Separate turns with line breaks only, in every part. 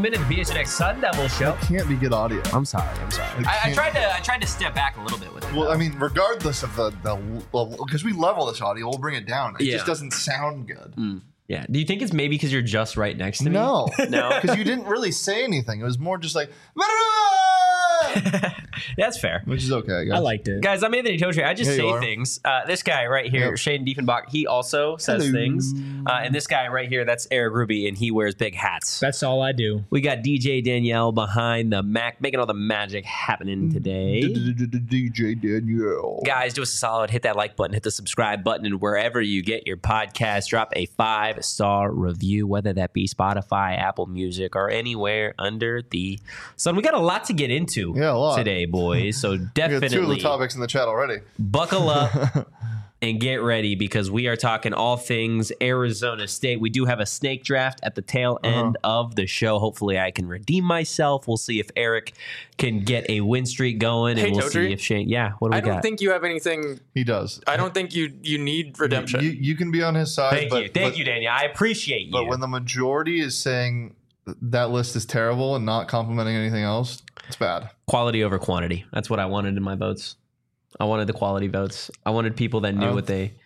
welcome into the PHNX Sun Devil Show.
That can't be good audio.
I'm sorry. I tried to step back a little bit with it.
Well, I mean, regardless of the because we level this audio, we'll bring it down. It just doesn't sound good.
Yeah. Do you think it's maybe because you're just right next to me?
No,
No?
because you didn't really say anything. It was more just like,
That's fair.
which is okay.
I liked it.
Guys, I'm Anthony Totri. I just
Here you
say
are.
things. This guy right here,
Yep.
Shaden Diefenbach, he also says
Hello.
things. And this guy right here, that's Eric Ruby, and he wears big hats.
That's all I do.
We got DJ Danielle behind the Mac, making all the magic happening today.
DJ Danielle.
Guys, do us a solid. Hit that like button, hit the subscribe button, and wherever you get your podcast, drop a 5-star review, whether that be Spotify, Apple Music, or anywhere under the sun. We got a lot to get into
Yeah, a lot.
today, boys. So
We got
definitely
two of the topics in the chat already.
buckle up and get ready because we are talking all things Arizona State. We do have a snake draft at the tail end of the show. Hopefully I can redeem myself. We'll see if Eric can get a win streak going, and
Hey,
we'll
Totri.
see if Shane. Yeah, what do we
I don't
got?
think you have anything.
He does.
I don't think you need redemption.
You can be on his side.
Thank you, Daniel. I appreciate you.
But when the majority is saying that list is terrible and not complimenting anything else, it's bad.
Quality over quantity. That's what I wanted in my votes. I wanted the quality votes. I wanted people that knew what they.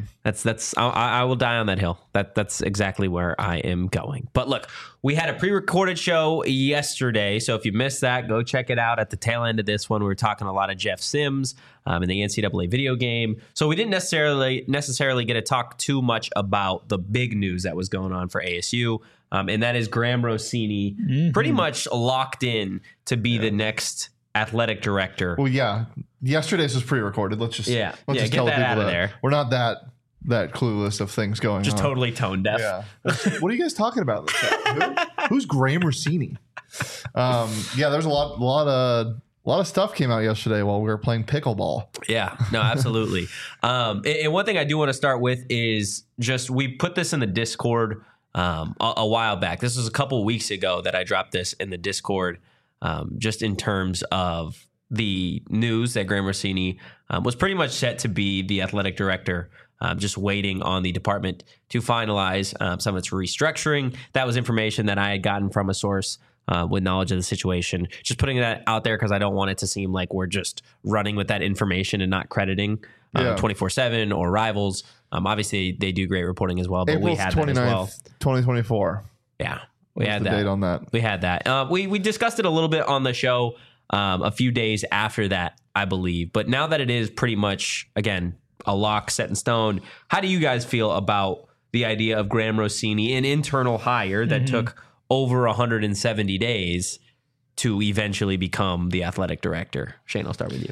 I will die on that hill. That's exactly where I am going. But look, we had a pre-recorded show yesterday, so if you missed that, go check it out. At the tail end of this one, we were talking a lot of Jeff Sims in the NCAA video game. So we didn't necessarily get to talk too much about the big news that was going on for ASU, and that is Graham Rossini pretty much locked in to be the next athletic director.
Well, yeah. Yesterday's was pre-recorded. Let's just
get
tell
that
people
out of there.
We're not that clueless of things going
Just
on.
totally tone deaf.
Yeah. What are you guys talking about in the chat? Who's Graham Rossini? Yeah, there's a lot of stuff came out yesterday while we were playing pickleball.
Yeah, no, absolutely. And one thing I do want to start with is just we put this in the Discord a while back. This was a couple weeks ago that I dropped this in the Discord, just in terms of the news that Graham Rossini was pretty much set to be the athletic director. Just waiting on the department to finalize some of its restructuring. That was information that I had gotten from a source with knowledge of the situation. Just putting that out there because I don't want it to seem like we're just running with that information and not crediting 24/7 or Rivals. Obviously, they do great reporting as well, but
April
we had that as well.
2024.
Yeah, we had
the
that.
date on that.
We had that. We discussed it a little bit on the show a few days after that, I believe. But now that it is pretty much, again, a lock set in stone, how do you guys feel about the idea of Graham Rossini, an internal hire that took over 170 days to eventually become the athletic director? Shane, I'll start with you.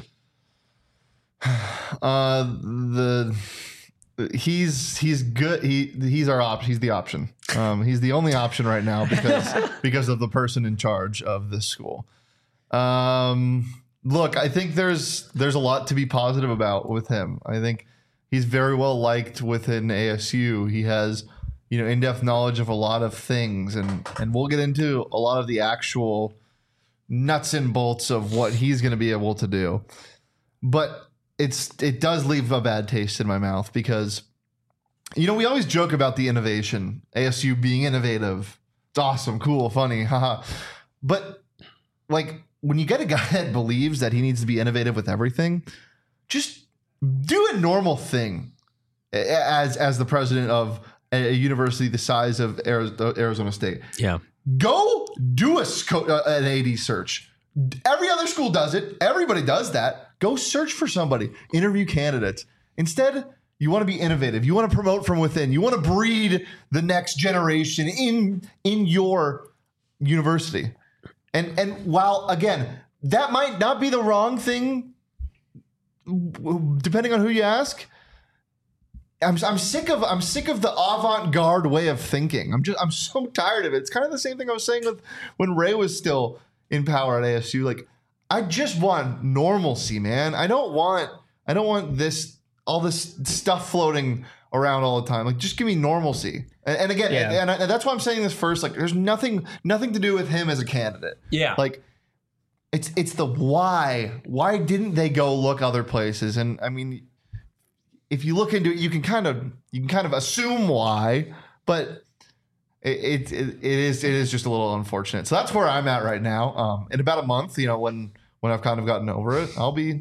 He's good. He's our option. He's the option. He's the only option right now because of the person in charge of this school. Look, I think there's a lot to be positive about with him. I think he's very well liked within ASU. He has, in-depth knowledge of a lot of things, and we'll get into a lot of the actual nuts and bolts of what he's going to be able to do. But it does leave a bad taste in my mouth because, we always joke about the innovation, ASU being innovative. It's awesome, cool, funny, haha. But when you get a guy that believes that he needs to be innovative with everything, just do a normal thing as the president of a university the size of Arizona State.
Yeah.
Go do an AD search. Every other school does it. Everybody does that. Go search for somebody. Interview candidates. Instead, you want to be innovative. You want to promote from within. You want to breed the next generation in your university. And while, again, that might not be the wrong thing, depending on who you ask, I'm sick of the avant-garde way of thinking. I'm so tired of it. It's kind of the same thing I was saying with when Ray was still in power at ASU. I just want normalcy, man. I don't want all this stuff floating around all the time. Just give me normalcy. And again, and that's why I'm saying this first. There's nothing to do with him as a candidate.
Yeah.
It's the why. Why didn't they go look other places? And I mean, if you look into it, you can kind of assume why. But it is just a little unfortunate. So that's where I'm at right now. In about a month, when I've kind of gotten over it, I'll be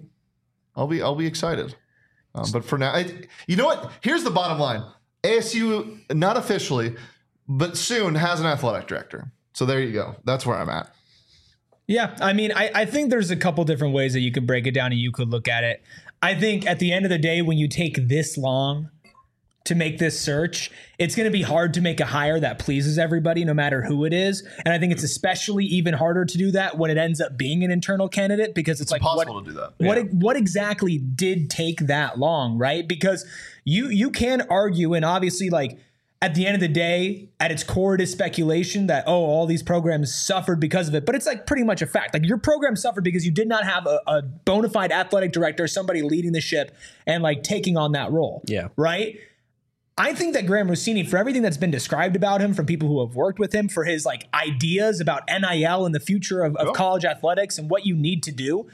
excited. But for now, you know what? Here's the bottom line: ASU, not officially, but soon has an athletic director. So there you go. That's where I'm at.
Yeah, I mean, I think there's a couple different ways that you could break it down and you could look at it. I think at the end of the day, when you take this long to make this search, it's going to be hard to make a hire that pleases everybody, no matter who it is. And I think it's especially even harder to do that when it ends up being an internal candidate, because it's like
impossible to do that.
What exactly did take that long, right? Because you can argue, and obviously, like, at the end of the day, at its core, it is speculation that, all these programs suffered because of it. But it's like pretty much a fact. Like, your program suffered because you did not have a bona fide athletic director, somebody leading the ship and like taking on that role.
Yeah.
Right. I think that Graham Rossini, for everything that's been described about him from people who have worked with him, for his like ideas about NIL and the future of college athletics and what you need to do,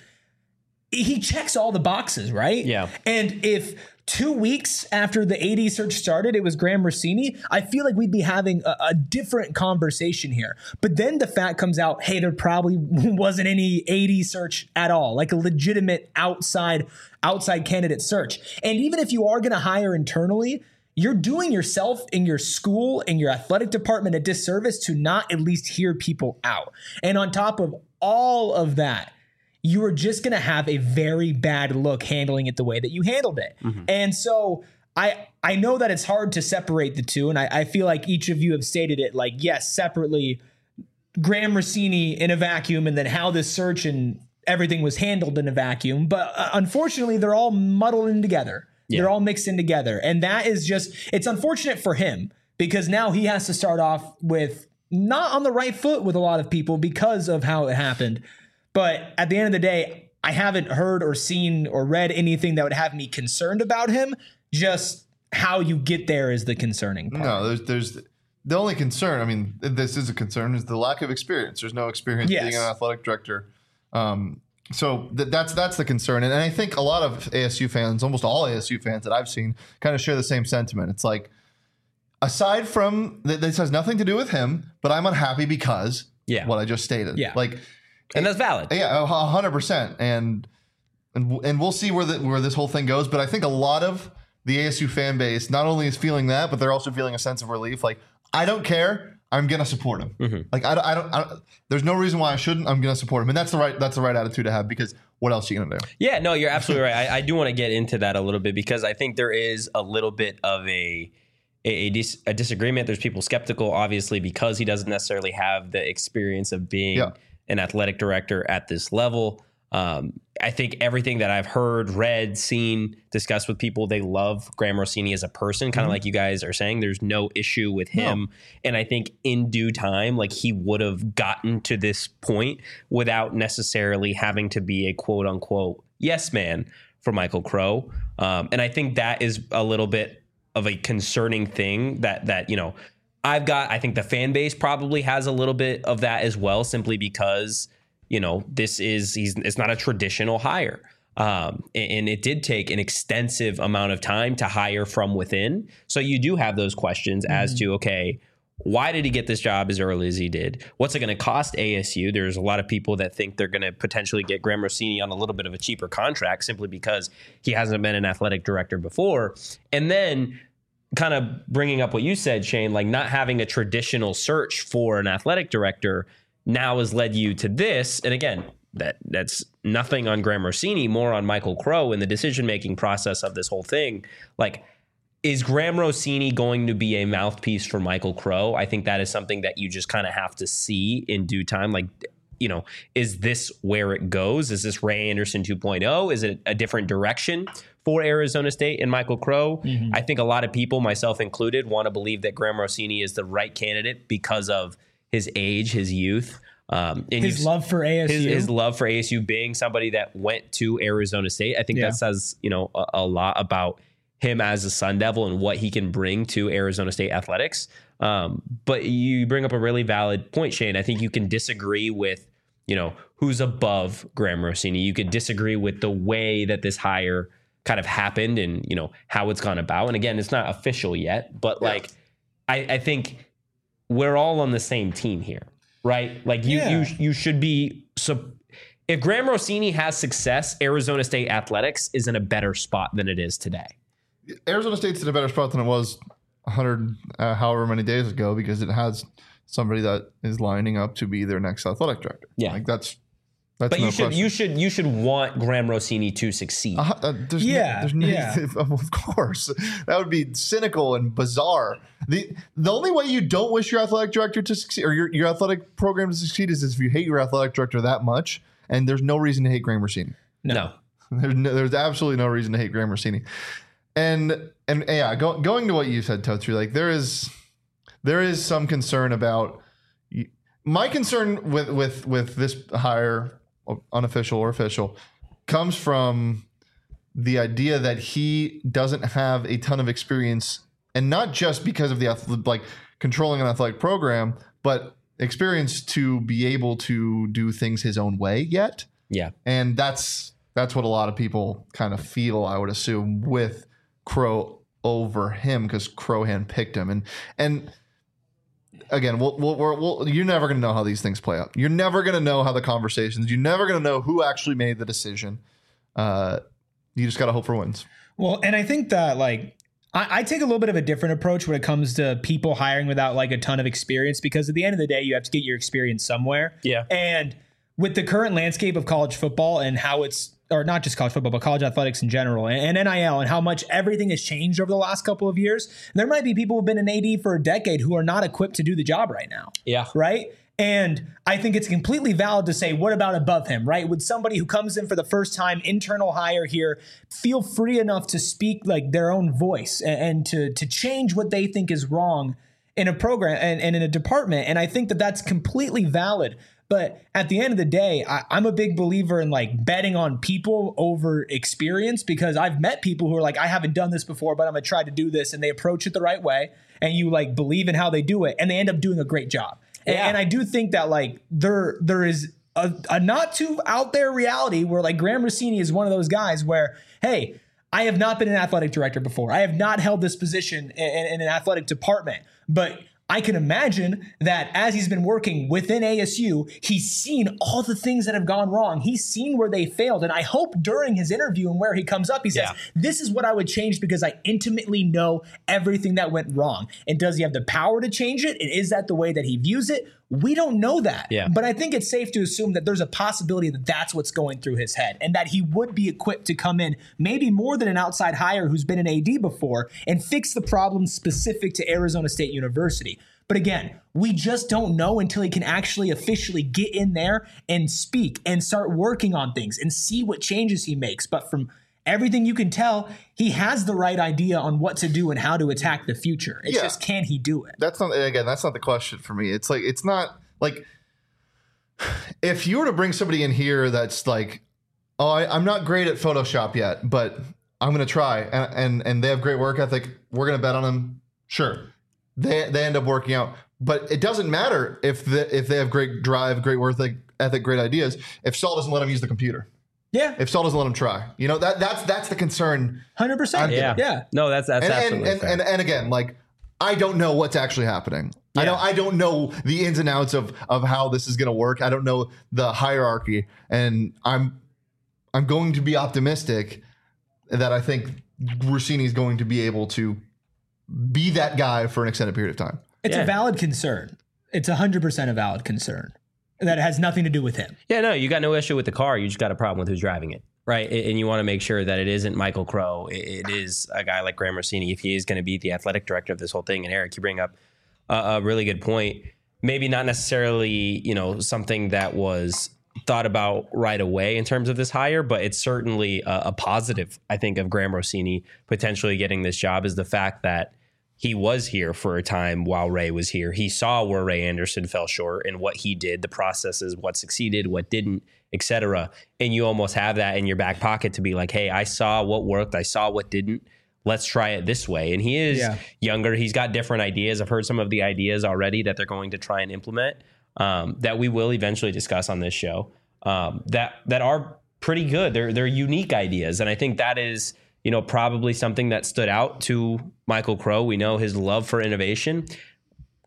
he checks all the boxes, right?
Yeah.
And if 2 weeks after the AD search started, it was Graham Rossini, I feel like we'd be having a different conversation here. But then the fact comes out, hey, there probably wasn't any AD search at all, like a legitimate outside candidate search. And even if you are going to hire internally, you're doing yourself and your school and your athletic department a disservice to not at least hear people out. And on top of all of that, you are just going to have a very bad look handling it the way that you handled it. Mm-hmm. And so I know that it's hard to separate the two. And I feel like each of you have stated it, like, yes, separately, Graham Rossini in a vacuum, and then how this search and everything was handled in a vacuum. But unfortunately, they're all muddled in together. Yeah. They're all mixed in together. And that is just, it's unfortunate for him, because now he has to start off with not on the right foot with a lot of people because of how it happened. But at the end of the day, I haven't heard or seen or read anything that would have me concerned about him. Just how you get there is the concerning part.
No, there's the only concern, I mean, this is a concern, is the lack of experience. There's no experience being an athletic director. So that's the concern. And I think a lot of ASU fans, almost all ASU fans that I've seen, kind of share the same sentiment. It's like, aside from this has nothing to do with him, but I'm unhappy because what I just stated.
Yeah.
Like, and that's valid.
Yeah, 100%. And we'll see where this whole thing goes. But I think a lot of the ASU fan base not only is feeling that, but they're also feeling a sense of relief. Like, I don't care. I'm gonna support him. Mm-hmm. Like, I don't. There's no reason why I shouldn't. I'm gonna support him, and that's the right attitude to have, because what else are you gonna do?
Yeah, no, you're absolutely right. I do want to get into that a little bit, because I think there is a little bit of a disagreement. There's people skeptical, obviously, because he doesn't necessarily have the experience of being an athletic director at this level. I think everything that I've heard, read, seen, discussed with people, they love Graham Rossini as a person, kind of like you guys are saying. There's no issue with him. No. And I think in due time, like, he would have gotten to this point without necessarily having to be a quote unquote yes man for Michael Crow. And I think that is a little bit of a concerning thing that I think the fan base probably has a little bit of that as well, simply because, it's not a traditional hire. And it did take an extensive amount of time to hire from within. So you do have those questions as to, okay, why did he get this job as early as he did? What's it going to cost ASU? There's a lot of people that think they're going to potentially get Graham Rossini on a little bit of a cheaper contract simply because he hasn't been an athletic director before. And then kind of bringing up what you said, Shane, like, not having a traditional search for an athletic director now has led you to this. And again, that's nothing on Graham Rossini, more on Michael Crow and the decision-making process of this whole thing. Like, is Graham Rossini going to be a mouthpiece for Michael Crow? I think that is something that you just kind of have to see in due time. Like, is this where it goes? Is this Ray Anderson 2.0? Is it a different direction for Arizona State and Michael Crow? Mm-hmm. I think a lot of people, myself included, want to believe that Graham Rossini is the right candidate because of his age, his youth, and
his love for ASU.
His love for ASU, being somebody that went to Arizona State. I think that says, a lot about him as a Sun Devil and what he can bring to Arizona State athletics. But you bring up a really valid point, Shane. I think you can disagree with, who's above Graham Rossini. You could disagree with the way that this hire kind of happened and, how it's gone about. And again, it's not official yet, but I think we're all on the same team here, right? Like you should be. So if Graham Rossini has success, Arizona State athletics is in a better spot than it is today.
Arizona State's in a better spot than it was 100 however many days ago because it has somebody that is lining up to be their next athletic director.
Yeah,
like that's.
But
no
you should want Graham Rossini to succeed.
Of course, that would be cynical and bizarre. The only way you don't wish your athletic director to succeed or your athletic program to succeed is if you hate your athletic director that much, and there's no reason to hate Graham Rossini.
No.
There's absolutely no reason to hate Graham Rossini. And yeah, going to what you said, Totri, like there is some concern about my concern with this hire, unofficial or official, comes from the idea that he doesn't have a ton of experience, and not just because of the controlling an athletic program, but experience to be able to do things his own way yet.
Yeah,
and that's what a lot of people kind of feel, I would assume, with Crow over him because Crow handpicked him, and. Again, you're never going to know how these things play out. You're never going to know how the conversations. You're never going to know who actually made the decision. You just got to hope for wins.
Well, and I think that I take a little bit of a different approach when it comes to people hiring without a ton of experience, because at the end of the day, you have to get your experience somewhere.
Yeah.
And with the current landscape of college football and how it's, or not just college football, but college athletics in general, and NIL, and how much everything has changed over the last couple of years, there might be people who've been an AD for a decade who are not equipped to do the job right now.
Yeah.
Right? And I think it's completely valid to say, what about above him, right? Would somebody who comes in for the first time, internal hire here, feel free enough to speak their own voice and to change what they think is wrong in a program and in a department? And I think that that's completely valid. But at the end of the day, I'm a big believer in betting on people over experience, because I've met people who are I haven't done this before, but I'm going to try to do this. And they approach it the right way. And you believe in how they do it. And they end up doing a great job. Yeah. And I do think that there is a not too out there reality where Graham Rossini is one of those guys where, hey, I have not been an athletic director before. I have not held this position in an athletic department. But I can imagine that as he's been working within ASU, he's seen all the things that have gone wrong. He's seen where they failed. And I hope during his interview and where he comes up, he says, this is what I would change because I intimately know everything that went wrong. And does he have the power to change it? And is that the way that he views it? We don't know that.
Yeah.
But I think it's safe to assume that there's a possibility that that's what's going through his head, and that he would be equipped to come in, maybe more than an outside hire who's been an AD before, and fix the problems specific to Arizona State University. But again, we just don't know until he can actually officially get in there and speak and start working on things and see what changes he makes. But from everything you can tell, he has the right idea on what to do and how to attack the future. It's just, can he do it?
That's not the question for me. It's not if you were to bring somebody in here that's I'm not great at Photoshop yet, but I'm going to try, and they have great work ethic, we're going to bet on them. Sure. They end up working out, but it doesn't matter if they have great drive, great work ethic, great ideas, if Saul doesn't let them use the computer.
Yeah.
If Saul doesn't let him try, that's the concern.
100%.
Yeah. No, that's absolutely fair.
And again, I don't know what's actually happening.
Yeah.
I don't know the ins and outs of how this is going to work. I don't know the hierarchy, and I'm going to be optimistic that I think Rossini is going to be able to be that guy for an extended period of time.
It's a valid concern. It's 100% a valid concern. That has nothing to do with him.
Yeah, no, you got no issue with the car. You just got a problem with who's driving it, right? And you want to make sure that it isn't Michael Crow. It is a guy like Graham Rossini, if he is going to be the athletic director of this whole thing. And Eric, you bring up a really good point. Maybe not necessarily, something that was thought about right away in terms of this hire, but it's certainly a positive, I think, of Graham Rossini potentially getting this job is the fact that he was here for a time while Ray was here. He saw where Ray Anderson fell short and what he did, the processes, what succeeded, what didn't, etc. And you almost have that in your back pocket to be like, hey, I saw what worked. I saw what didn't. Let's try it this way. And he is younger. He's got different ideas. I've heard some of the ideas already that they're going to try and implement that we will eventually discuss on this show that are pretty good. They're unique ideas. And I think that is probably something that stood out to Michael Crow. We know his love for innovation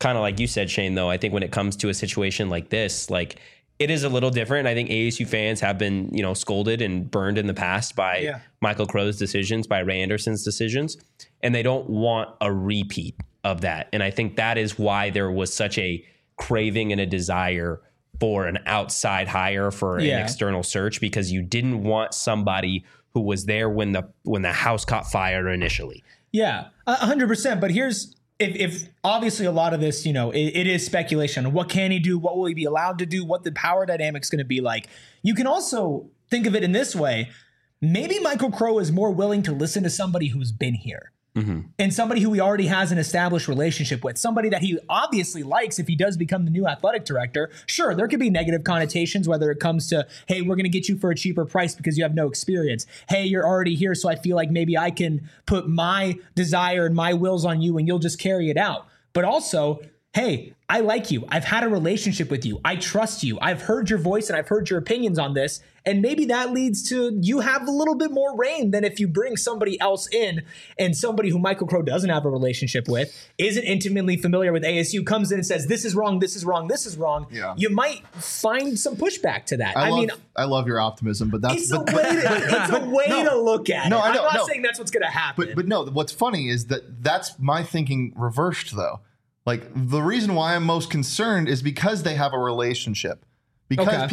kind of like you said, Shane, though, I think when it comes to a situation like this, like it is a little different. I think ASU fans have been, scolded and burned in the past by Michael Crow's decisions, by Ray Anderson's decisions, and they don't want a repeat of that. And I think that is why there was such a craving and a desire for an outside hire, for an external search, because you didn't want somebody who was there when the house caught fire initially.
Yeah, 100%. But here's, if obviously a lot of this, it is speculation on what can he do, what will he be allowed to do, what the power dynamic's going to be like. You can also think of it in this way. Maybe Michael Crow is more willing to listen to somebody who's been here. And somebody who he already has an established relationship with, somebody that he obviously likes if he does become the new athletic director. Sure, there could be negative connotations, whether it comes to, hey, we're going to get you for a cheaper price because you have no experience. Hey, you're already here, so I feel like maybe I can put my desire and my wills on you and you'll just carry it out. But also, hey, I like you. I've had a relationship with you. I trust you. I've heard your voice and I've heard your opinions on this. And maybe that leads to you have a little bit more reign than if you bring somebody else in, and somebody who Michael Crow doesn't have a relationship with, isn't intimately familiar with ASU, comes in and says, this is wrong, this is wrong, this is wrong.
Yeah.
You might find some pushback to that.
I love your optimism, but that's
it's a way to look at it. I'm not saying that's what's going to happen.
But no, what's funny is that's my thinking reversed, though. Like, the reason why I'm most concerned is because they have a relationship. Because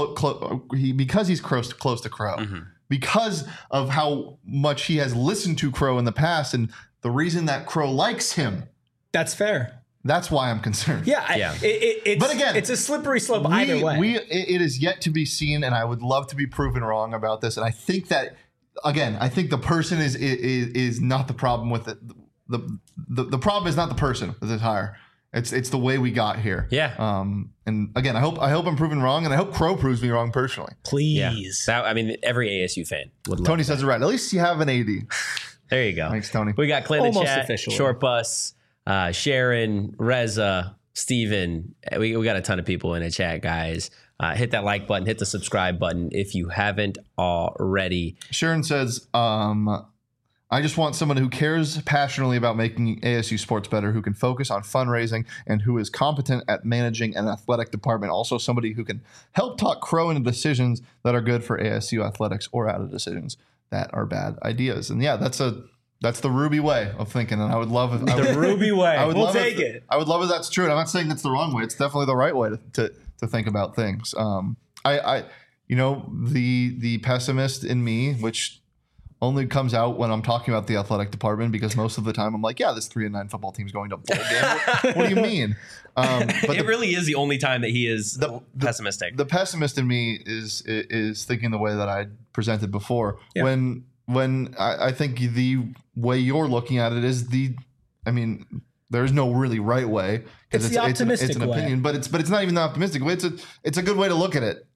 because he's close to Crow, because of how much he has listened to Crow in the past, and the reason that Crow likes him.
That's fair.
That's why I'm concerned.
Yeah. But again, it's a slippery slope either way.
It is yet to be seen, and I would love to be proven wrong about this. And I think that, again, I think the person is not the problem with it. The problem is not the person with this hire. It's the way we got here.
Yeah.
And again, I hope I'm proven wrong, and I hope Crow proves me wrong personally.
Please.
Yeah. Every ASU fan would love
Tony
that.
says it right. At least you have an AD.
There you go.
Thanks, Tony.
We got Clay in the
Almost
chat,
officially.
Short Bus, Sharon, Reza, Steven. We got a ton of people in the chat, guys. Hit that like button, hit the subscribe button if you haven't already.
Sharon says, I just want someone who cares passionately about making ASU sports better, who can focus on fundraising, and who is competent at managing an athletic department. Also, somebody who can help talk Crow into decisions that are good for ASU athletics, or out of decisions that are bad ideas. And yeah, that's the Ruby way of thinking. And I would love if
The Ruby way. We'll take it.
I would love if that's true. And I'm not saying that's the wrong way. It's definitely the right way to think about things. The pessimist in me, which only comes out when I'm talking about the athletic department, because most of the time I'm like, yeah, this 3-9 football team's going to bowl game. What do you mean? But
it really is the only time that he is pessimistic.
The pessimist in me is thinking the way that I presented before.
Yeah.
When I think the way you're looking at it is there's no really right way.
It's the optimistic
it's an
way.
opinion, but it's not even the optimistic way. It's a good way to look at it.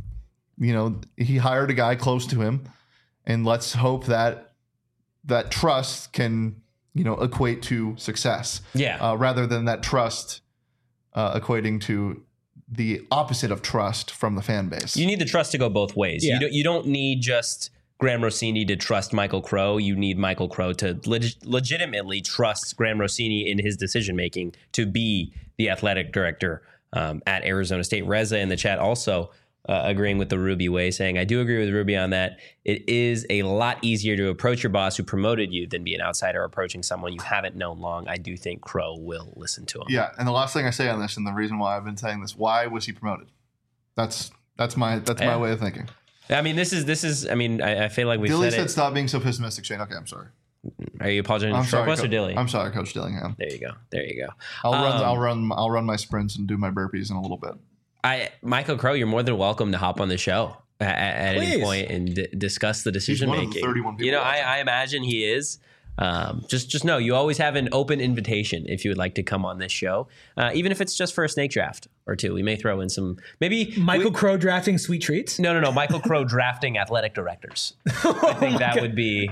He hired a guy close to him. And let's hope that trust can, equate to success.
Yeah.
Rather than that trust equating to the opposite of trust from the fan base.
You need the trust to go both ways.
Yeah.
You don't need just Graham Rossini to trust Michael Crow. You need Michael Crow to legitimately trust Graham Rossini in his decision making to be the athletic director at Arizona State. Reza in the chat also agreeing with the Ruby way, saying, I do agree with Ruby on that. It is a lot easier to approach your boss who promoted you than be an outsider approaching someone you haven't known long. I do think Crow will listen to him.
Yeah, and the last thing I say on this, and the reason why I've been saying this, why was he promoted? That's my way of thinking.
I mean, this is. I mean, I feel like we
Dilly
said
said
it.
stop being so pessimistic, Shane. Okay, I'm sorry.
Are you apologizing to Short Bus or Dilly?
I'm sorry, Coach Dillingham.
There you go.
I'll run my sprints and do my burpees in a little bit.
Michael Crow, you're more than welcome to hop on the show at any point and discuss the decision making.
He's one of the 31 people.
I imagine he is. Just know you always have an open invitation if you would like to come on this show, even if it's just for a snake draft. or two. We may throw in some maybe
Michael Crow drafting sweet treats.
No. Michael Crow drafting athletic directors. I think that would be,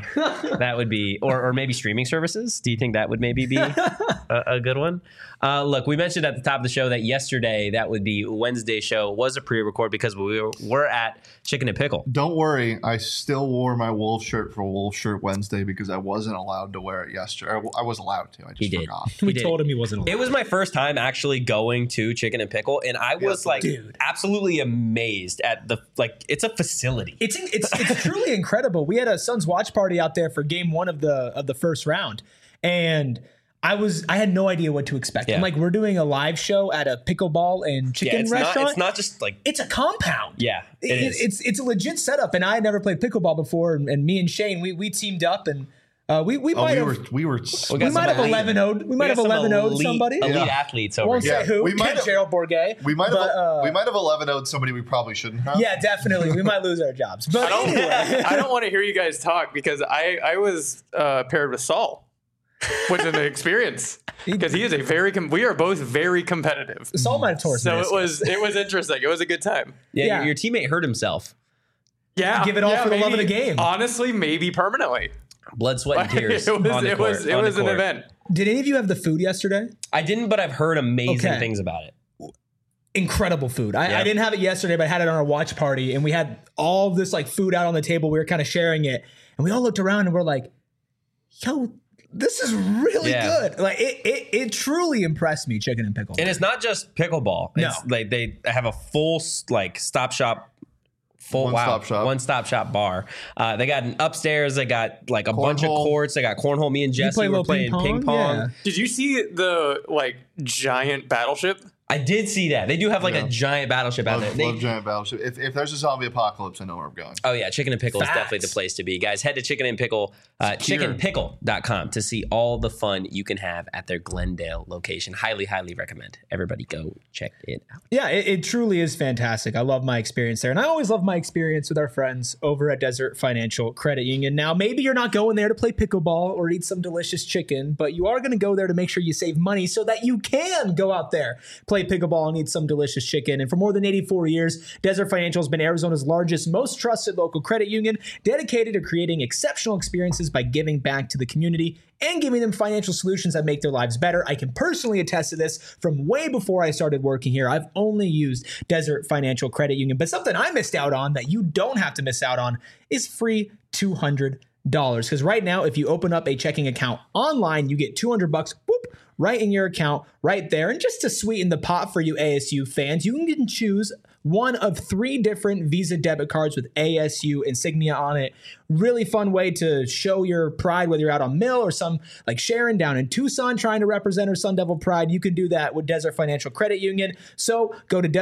or maybe streaming services. Do you think that would maybe be a good one? Look, we mentioned at the top of the show that yesterday, that would be Wednesday show, was a pre-record because we were at Chicken and Pickle.
Don't worry, I still wore my Wolf shirt for Wolf Shirt Wednesday because I wasn't allowed to wear it yesterday. I was allowed to. I just forgot.
We
did.
told him he wasn't allowed.
It was my first time actually going to Chicken and Pickle, and I was absolutely amazed at it's a facility.
It's truly incredible. We had a Suns watch party out there for game 1 of the first round, and I had no idea what to expect.
Yeah.
I'm like, we're doing a live show at a pickleball and chicken restaurant.
It's not just like
it's a compound.
Yeah, it is.
It's a legit setup, and I had never played pickleball before. And me and Shane, we teamed up, and we might have 11-0'd. We might have 11-0'd somebody.
Elite athletes over
Won't
here.
say who.
We might have-
Gerald Bourget.
We might have 11-0'd somebody we probably shouldn't have.
Yeah, definitely. We might lose our jobs. But anyway.
I don't want to hear you guys talk because I was paired with Saul, which is an experience because he is we are both very competitive.
Saul might have torn.
So it was interesting. It was a good time.
Yeah. Your teammate hurt himself.
Yeah,
give it all for the love of the
maybe,
game.
Honestly, maybe permanently.
Blood, sweat, and tears.
It was an event.
Did any of you have the food yesterday?
I didn't, but I've heard amazing things about it.
Incredible food. I didn't have it yesterday, but I had it on our watch party, and we had all this food out on the table. We were kind of sharing it, and we all looked around and we're like, "Yo, this is really good." Like it truly impressed me, Chicken and Pickle.
And it's not just pickleball. It's like they have a full stop shop. One-stop shop bar. They got an upstairs. They got a bunch of courts. They got cornhole. Me and Jesse were playing ping pong.
Yeah.
Did you see the giant battleship?
I did see that. They do have a giant battleship out there.
Love giant battleship. If there's a zombie apocalypse, I know where I'm going.
Oh yeah, Chicken and Pickle is definitely the place to be. Guys, head to Chicken and Pickle, chickenpickle.com to see all the fun you can have at their Glendale location. Highly, highly recommend. Everybody go check it out.
Yeah, it truly is fantastic. I love my experience there. And I always love my experience with our friends over at Desert Financial Credit Union. Now, maybe you're not going there to play pickleball or eat some delicious chicken, but you are going to go there to make sure you save money so that you can go out there, play pickleball, and eat some delicious chicken. And for more than 84 years, Desert Financial has been Arizona's largest, most trusted local credit union, dedicated to creating exceptional experiences by giving back to the community and giving them financial solutions that make their lives better. I can personally attest to this from way before I started working here. I've only used Desert Financial Credit Union, but something I missed out on that you don't have to miss out on is free $200. Because right now, if you open up a checking account online, you get $200 right in your account right there. And just to sweeten the pot for you ASU fans, you can choose one of 3 different Visa debit cards with ASU insignia on it. Really fun way to show your pride, whether you're out on Mill or some like Sharon down in Tucson trying to represent her Sun Devil pride. You can do that with Desert Financial Credit Union. So go to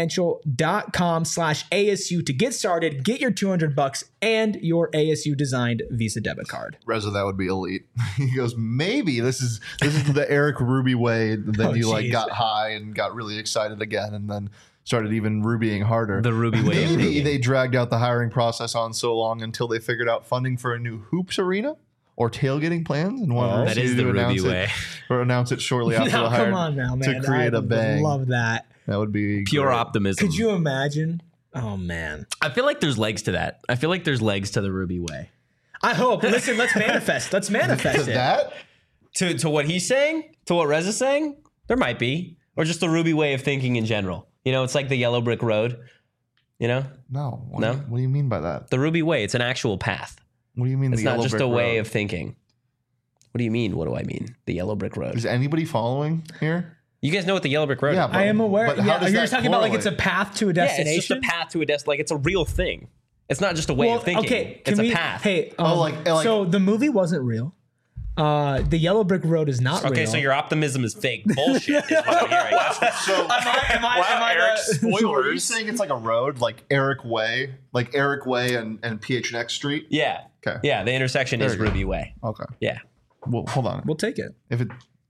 desertfinancial.com/ASU to get started, get your $200 and your ASU designed Visa debit card.
Reza, that would be elite. He goes, maybe this is the Eric Ruby way. Then you got high and got really excited again, and then started even rubying harder.
The Ruby way.
Maybe they dragged out the hiring process on so long until they figured out funding for a new hoops arena or tailgating plans, and wanted
that is the Ruby way,
or announce it shortly after the hire.
Come on now, man.
To create a bang.
Love that.
That would be
pure
great.
optimism.
Could you imagine? Oh man,
I feel like there's legs to that. I feel like there's legs to the Ruby way.
I hope. Listen, let's manifest. Let's manifest it.
That
To what he's saying, to what Reza's saying, there might be, or just the Ruby way of thinking in general. It's like the yellow brick road.
No.
No?
What do you mean by that?
The Ruby way. It's an actual path.
What do you mean?
It's
the
not
yellow
just
brick
a way
road?
of thinking. What do you mean? What do I mean? The yellow brick road.
Is anybody following here?
You guys know what the yellow brick road
Yeah,
is?
but-
I am aware.
but how
Yeah,
does
you're
that
just talking about it's a
correlate?
path to a
Yeah,
destination.
it's just a path to a destination. Like it's a real thing. It's not just a way of thinking.
Okay,
it's
can
a
we,
path.
Hey,
like
so the movie wasn't real. The yellow brick road is not real.
Okay, so your optimism is fake bullshit. Is what I'm hearing.
am I
Eric,
So are you
spoilers.
saying it's like a road, like Eric Way, and PHNX Street?
Yeah.
Okay.
Yeah, the intersection is
There you go.
Ruby Way.
Okay.
Yeah.
Well, hold on.
We'll take it.
If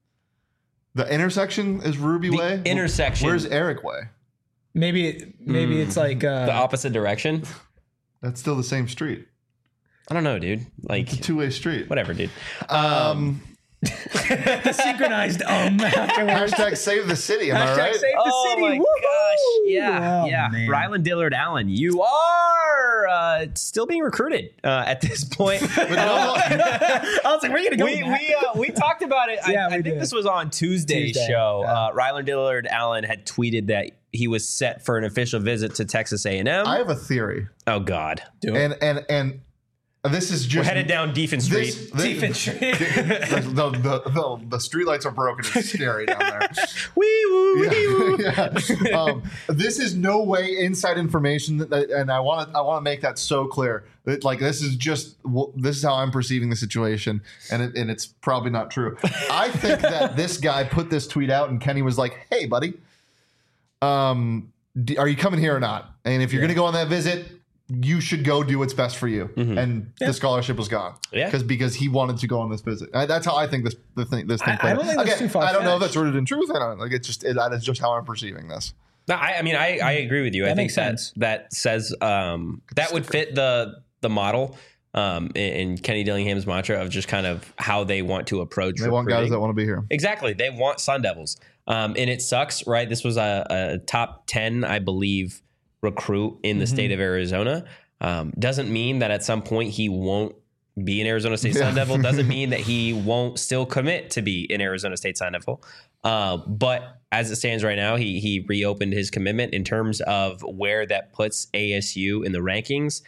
the intersection is Ruby Way,
intersection.
Where's Eric Way?
Maybe it's like
The opposite direction.
That's still the same street.
I don't know, dude. Like
It's a two-way street.
whatever, dude.
The synchronized afterwards.
Hashtag save the city. Am I
Hashtag
right?
save the
Oh
city.
my
Woo-hoo!
gosh. Yeah.
Oh,
yeah.
man.
Rylan Dillard Allen, you are still being recruited at this point.
I was like, where are you going to go with that?
we talked about it.
Yeah,
I
we
think
did.
this was on Tuesday's
Tuesday,
show.
yeah.
Rylan Dillard Allen had tweeted that he was set for an official visit to Texas A&M.
I have a theory,
Oh God.
and this is just
We're headed down Deafin Street.
Defense.
the streetlights are broken. It's scary down there.
Wee woo, wee woo.
Yeah. This is no way inside information, and I want to make that so clear. Like this is how I'm perceiving the situation, and it's probably not true. I think that this guy put this tweet out, and Kenny was like, "Hey, buddy, are you coming here or not? And if you're going to go on that visit, you should go do what's best for you." And the scholarship was gone.
Yeah.
Because he wanted to go on this visit. That's how I think this thing played.
I don't think that's too far-fetched.
I don't know if that's rooted in truth. I don't like that is just how I'm perceiving this.
No, I mean, I agree with you. I think
makes sense.
that says that would fit the model in Kenny Dillingham's mantra of just kind of how they want to approach.
They want guys that want to be here.
Exactly. They want Sun Devils. And it sucks, right? This was a top 10, I believe, recruit in the state of Arizona. Doesn't mean that at some point he won't be an Arizona State Sun Devil. Doesn't mean that he won't still commit to be an Arizona State Sun Devil. But as it stands right now, he reopened his commitment in terms of where that puts ASU in the rankings.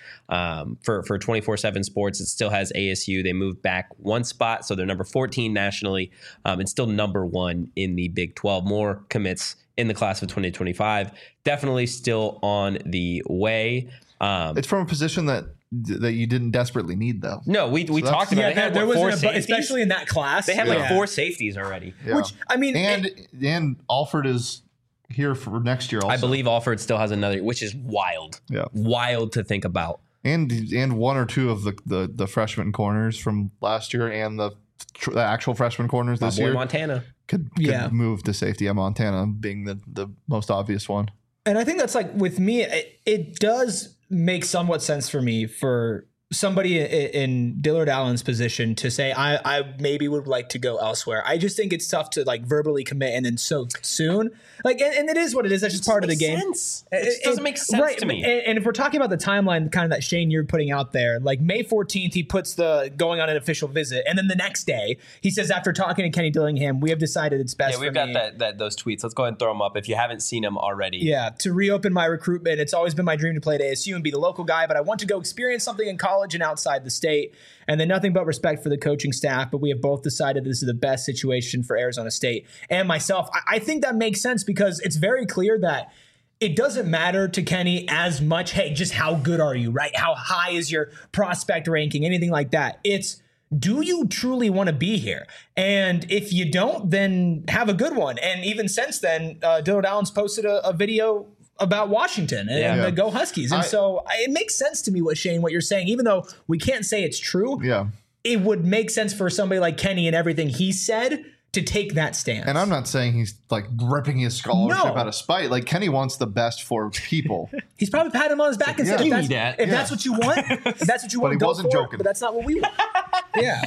For 24/7 Sports, it still has ASU. They moved back one spot, so they're number 14 nationally, and still number 1 in the Big 12. More commits in the class of 2025. Definitely still on the way.
It's from a position that you didn't desperately need, though.
No, we talked about it. They had,
there
what,
was
4
an
safeties?
especially in that class.
They had like 4 safeties already.
Yeah.
Which I mean,
and Alford is here for next year also.
I believe Alford still has another, which is wild.
Yeah.
Wild to think about.
And 1 or 2 of the freshman corners from last year and the actual freshman corners this
Boy,
year
Montana.
could move to safety. Montana being the most obvious one.
and I think that's like with me, it does make somewhat sense for me for somebody in Dillard Allen's position to say, I maybe would like to go elsewhere. I just think it's tough to like verbally commit and then so soon. Like, and it is what it is. That's just part of the game.
It doesn't make sense to me.
And if we're talking about the timeline, kind of that Shane you're putting out there, like May 14th, he puts the going on an official visit. And then the next day he says, after talking to Kenny Dillingham, we have decided it's best
Yeah, we've got those tweets. Let's go ahead and throw them up if you haven't seen them already.
Yeah, to reopen my recruitment. It's always been my dream to play at ASU and be the local guy, but I want to go experience something in college and outside the state. And then nothing but respect for the coaching staff, but we have both decided this is the best situation for Arizona State and myself. I think that makes sense because it's very clear that it doesn't matter to Kenny as much, hey, just how good are you, right? How high is your prospect ranking, anything like that. It's, do you truly want to be here? And if you don't, then have a good one. And even since then, Dillard Allen's posted a video about Washington and the Go Huskies. And so it makes sense to me what you're saying, even though we can't say it's true.
Yeah.
It would make sense for somebody like Kenny and everything he said to take that stance.
And I'm not saying he's like ripping his scholarship out of spite. Like Kenny wants the best for people.
He's probably patting him on his back and said, if that's what you want,
But he
go
wasn't
for it,
joking.
but that's not what we want. Yeah.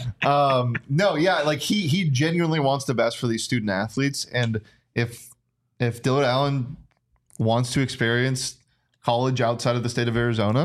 Like he genuinely wants the best for these student athletes. And if Dillard Allen wants to experience college outside of the state of Arizona,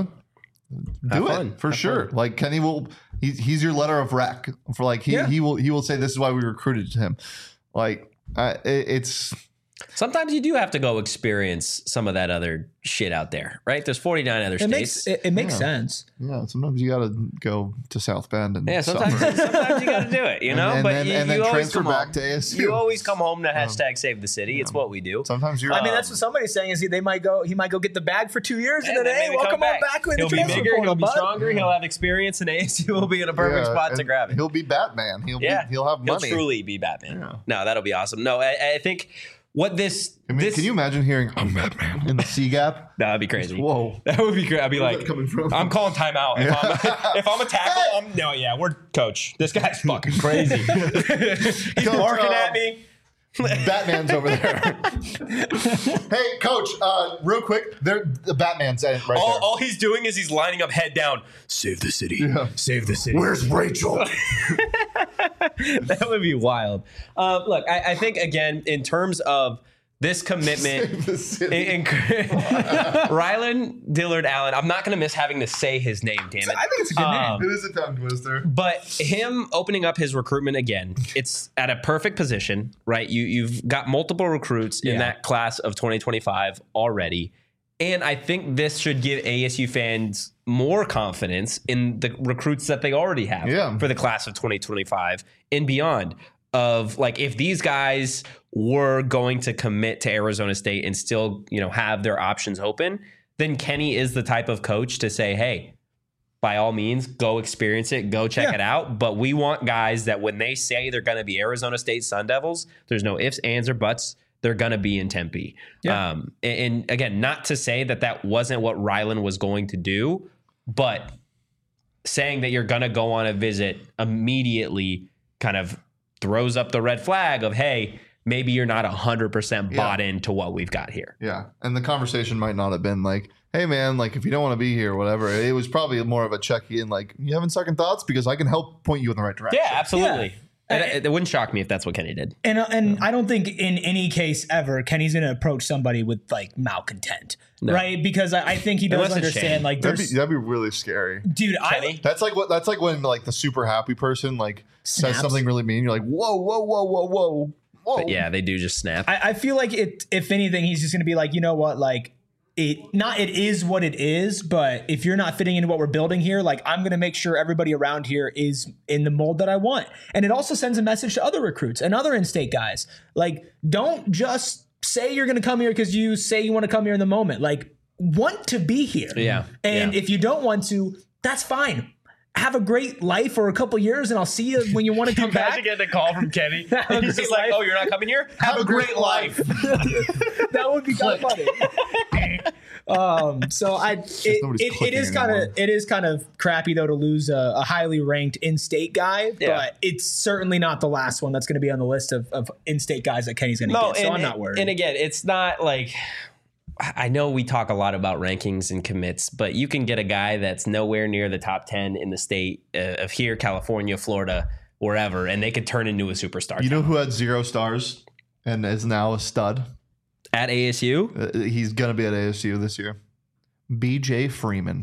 do it for sure. Like Kenny will, he's your letter of rec for like he will say this is why we recruited him. Like it's.
Sometimes you do have to go experience some of that other shit out there, right? There's 49 other states.
It makes sense.
Yeah, sometimes you got to go to South Bend and
sometimes you got to do it, you know.
and then
you always
transfer
come
back
home.
to ASU.
You always come home to hashtag save the city. It's what we do.
Sometimes you're.
I mean, that's what somebody's saying is he might go get the bag for 2 years and then hey,
maybe
welcome
come
on back with the
He'll be
transfer
bigger.
portal,
He'll be
bud.
stronger. He'll have experience, and ASU will be in a perfect spot to grab it.
He'll be Batman. He'll have money.
He'll truly be Batman. Yeah. No, that'll be awesome. No, I think what this.
Can you imagine hearing "I'm Batman" in the C gap?
That'd be crazy.
Whoa,
that would be great. I'd be
Where's
like,
that coming from?
I'm calling timeout. If I'm a tackle, we're coach. This guy's fucking crazy. He's barking at me.
Batman's over there. Hey, coach, real quick, the Batman's right there.
All he's doing is he's lining up head down. Save the city. Yeah. Save the city.
Where's Rachel?
That would be wild. Look, I think, again, in terms of this commitment, Rylan Dillard Allen, I'm not going to miss having to say his name, damn it.
I think it's a good name.
It is a tongue twister.
But him opening up his recruitment again, it's at a perfect position, right? You've got multiple recruits in that class of 2025 already. And I think this should give ASU fans more confidence in the recruits that they already have for the class of 2025 and beyond. Of like, if these guys were going to commit to Arizona State and still, have their options open, then Kenny is the type of coach to say, hey, by all means, go experience it, go check it out. But we want guys that when they say they're going to be Arizona State Sun Devils, there's no ifs, ands, or buts. They're going to be in Tempe. Yeah. And again, not to say that wasn't what Rylan was going to do, but saying that you're going to go on a visit immediately kind of throws up the red flag of, hey, maybe you're not 100% bought into what we've got here.
Yeah. And the conversation might not have been like, hey, man, like if you don't want to be here, whatever. It was probably more of a check-in, like, you having second thoughts? Because I can help point you in the right direction.
Yeah, absolutely. Yeah. It wouldn't shock me if that's what Kenny did.
And I don't think in any case ever Kenny's going to approach somebody with like malcontent, right? Because I think he does understand like
that'd be really scary,
dude.
That's like when like the super happy person like says something really mean. You're like, whoa.
But yeah, they do just snap.
I feel like if anything, he's just going to be like, you know what, like. It is what it is, but if you're not fitting into what we're building here, like I'm going to make sure everybody around here is in the mold that I want. And it also sends a message to other recruits and other in-state guys. Like, don't just say you're going to come here because you say you want to come here in the moment. Like, want to be here.
Yeah.
And if you don't want to, that's fine. Have a great life for a couple years, and I'll see you when you want to come back.
Imagine getting a call from Kenny. He's just like, "Oh, you're not coming here? Have a great life."
That would be kind of funny. So it is kind of crappy though to lose a highly ranked in-state guy, but it's certainly not the last one that's going to be on the list of in-state guys that Kenny's going to get. So I'm not worried.
And again, it's not like. I know we talk a lot about rankings and commits, but you can get a guy that's nowhere near the top 10 in the state of here, California, Florida, wherever, and they could turn into a superstar.
You know who had 0 stars and is now a stud?
At ASU?
He's going to be at ASU this year. BJ Freeman.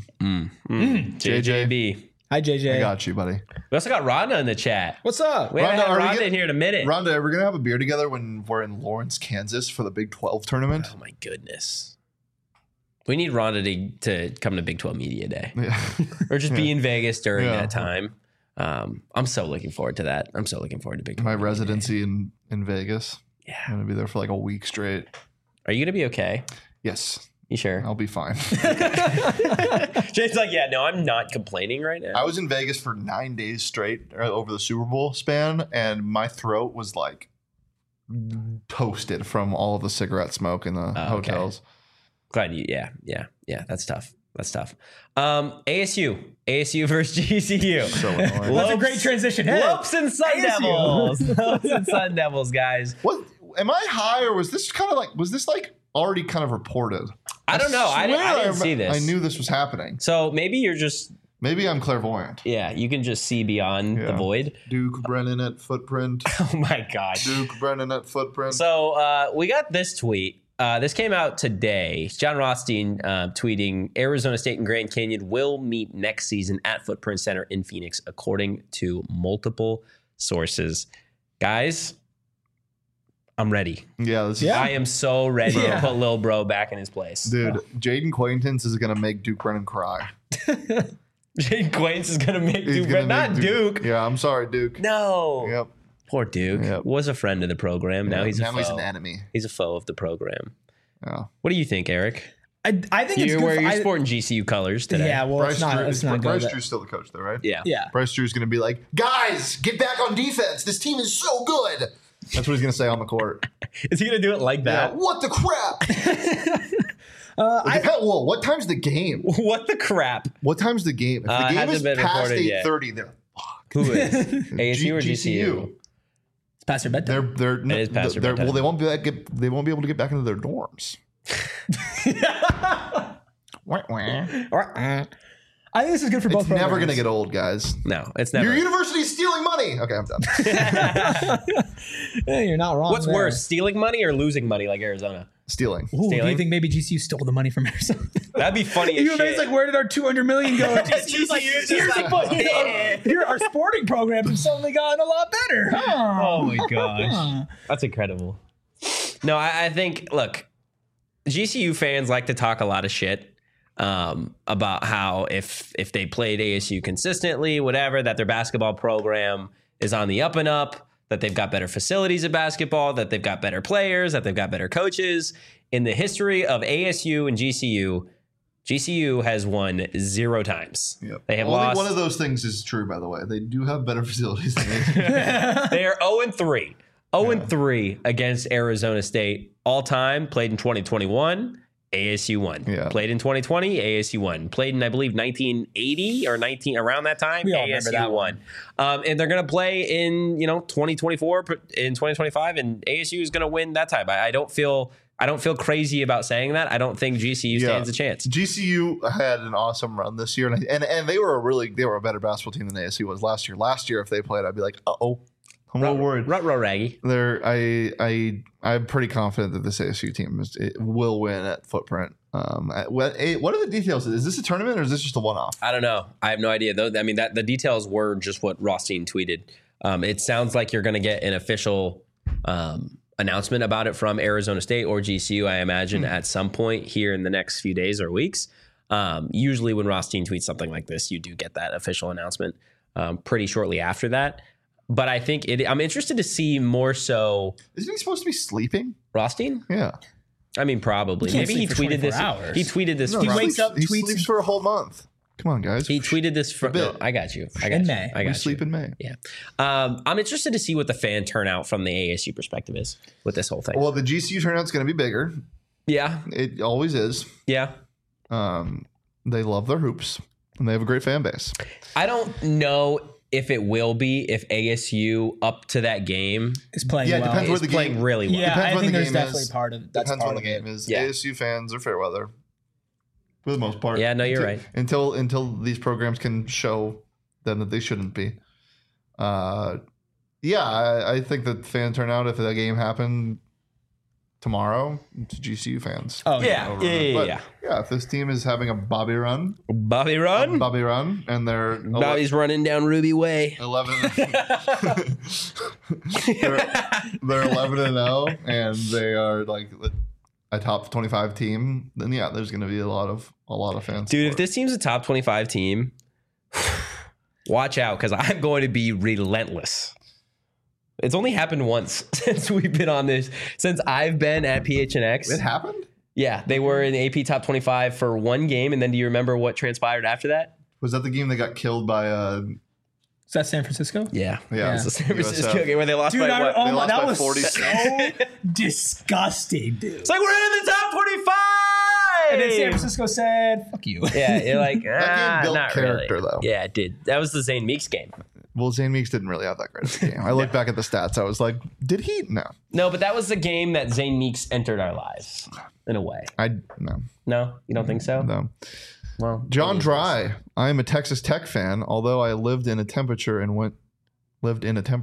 JJB.
Hi, JJ.
I got you, buddy.
We also got Rhonda in the chat.
What's up?
We haven't had Rhonda in here in a minute.
Rhonda, we're going to have a beer together when we're in Lawrence, Kansas for the Big 12 tournament.
Oh, my goodness. We need Rhonda to come to Big 12 Media Day. Yeah. Or just be in Vegas during that time. I'm so looking forward to that. I'm so looking forward to Big 12
My
Media
residency in Vegas.
Yeah.
I'm going to be there for like a week straight.
Are you going to be okay?
Yes.
You sure?
I'll be fine.
Jay's like, yeah, no, I'm not complaining right now.
I was in Vegas for 9 days straight over the Super Bowl span, and my throat was like toasted from all of the cigarette smoke in the hotels.
Glad you, yeah, that's tough. That's tough. ASU versus GCU.
So annoying.
That's a great transition. Hey,
Lopes and Sun Devils. Lopes and Sun Devils, guys.
What? Am I high, or was this already kind of reported?
I don't know. I didn't see this.
I knew this was happening.
So maybe
Maybe I'm clairvoyant.
Yeah, you can just see beyond the void.
Duke Brennan at Footprint.
Oh my God.
Duke Brennan at Footprint.
So we got this tweet. This came out today. John Rothstein tweeting, Arizona State and Grand Canyon will meet next season at Footprint Center in Phoenix, according to multiple sources. Guys, I'm ready.
Yeah.
I am so ready to put Lil Bro back in his place.
Dude, Jaden Quaintance is going to make Duke Brennan cry.
Jaden Quaintance is going to make Duke Brennan. Not Duke.
Yeah, I'm sorry, Duke.
No.
Yep.
Poor Duke.
Yep.
Was a friend of the program. Now he's a foe.
He's an enemy.
He's a foe of the program.
Yeah.
What do you think, Eric?
I think it's good.
You're sporting GCU colors today.
Yeah, well,
Bryce
it's not good.
Bryce Drew's still the coach, though, right?
Yeah.
Bryce Drew's going to be like, guys, get back on defense. This team is so good. That's what he's going to say on the court.
Is he going to do it like that?
Yeah, what the crap? What time's the game?
What the crap?
What time's the game? If the game is past 8:30, they're fucked.
Who is? ASU or GCU?
It's past their bedtime.
It is past their bedtime.
Well, they won't be able to get back into their dorms.
I think this is good for both.
It's never
programs.
going to get old, guys.
No, it's never.
Your university's stealing money. Okay, I'm done.
Yeah, you're not wrong.
What's
there.
worse, stealing money or losing money like Arizona?
Stealing.
Ooh, do you
Stealing?
think maybe GCU stole the money from Arizona?
That'd be funny as
UVA's
shit.
like, where did our $200 million go? GCU's like,
GCU's
here's
just
the
like,
money. Here, our sporting programs have suddenly gotten a lot better.
Oh my gosh. That's incredible. No, I think, look, GCU fans like to talk a lot of shit about how if they played ASU consistently, whatever, that their basketball program is on the up and up, that they've got better facilities at basketball, that they've got better players, that they've got better coaches. In the history of ASU and GCU has won 0 times.
Yep.
They have
Only
lost.
one of those things is true, by the way. They do have better facilities than ASU.
They are 0-3. 0-3 against Arizona State all time. Played in 2021, ASU won.
Yeah.
Played in 2020, ASU won. Played in, I believe, 1980 or 19 around that time,
We all remember
ASU
that
won. And they're going to play in 2024, in 2025, and ASU is going to win that time. I don't feel crazy about saying that. I don't think GCU stands a chance.
GCU had an awesome run this year, and they were a better basketball team than ASU was last year. Last year, if they played, I'd be like, I'm a little worried.
Ruh-roh, Raggy.
I'm pretty confident that this ASU team will win at Footprint. What are the details? Is this a tournament or is this just a one-off?
I don't know. I have no idea. Though. I mean, the details were just what Rothstein tweeted. It sounds like you're going to get an official announcement about it from Arizona State or GCU, I imagine, at some point here in the next few days or weeks. Usually when Rothstein tweets something like this, you do get that official announcement pretty shortly after that. But I think I'm interested to see more so.
Isn't he supposed to be sleeping?
Rothstein?
Yeah.
I mean, probably.
He can't
Maybe he
sleep for
tweeted this.
24 hours.
He tweeted this.
No,
He
from-
wakes up,
He
tweets-
sleeps for a whole month. Come on, guys.
He tweeted this from.
bit.
No, I got you.
In May.
I got
We
you.
sleep in May.
Yeah. I'm interested to see what the fan turnout from the ASU perspective is with this whole thing.
Well, the GCU turnout's going to be bigger.
Yeah.
It always is.
Yeah.
They love their hoops, and they have a great fan base.
I don't know if it will be if ASU up to that game
Is playing
Yeah, it
well.
depends where
is
the
playing
game.
really well.
Yeah,
Depends
I
when
think
the
there's
game
definitely
is.
part of that's
Depends
part
when the
of
game
it.
is.
Yeah.
ASU fans are fair weather for the most part.
Yeah, no, you're right.
Until these programs can show them that they shouldn't be. I think that fan turnout, if that game happened tomorrow, to GCU fans.
Oh
Yeah.
But,
Yeah.
if this team is having a Bobby run,
Bobby Run.
and they're
Bobby's running down Ruby Way.
11 they're 11-0 and they are like a top 25 team, then there's going to be a lot of fans.
Dude, if
support.
this team's a top 25 team, watch out because I'm going to be relentless. It's only happened once since we've been on this, since I've been at PHNX.
It happened?
Yeah, they were in the AP top 25 for one game. And then do you remember what transpired after that?
Was that the game that got killed by
Is that San Francisco?
Yeah.
Yeah.
It was the San Francisco
USF.
game where they lost
Dude,
by what?
They lost
that
by
was
40.
so disgusting, dude.
It's like we're in the top 25.
And then San Francisco said, "Fuck you."
Yeah, you're like,
game built
not
character,
really.
though.
Yeah, it did. That was the Zane Meeks game.
Well, Zane Meeks didn't really have that great of a game. I look back at the stats. I was like, did he? No.
No, but that was the game that Zane Meeks entered our lives in a way.
No.
No, you don't think so?
No.
Well,
John Dry. I am a Texas Tech fan, although I lived in a temperature and went to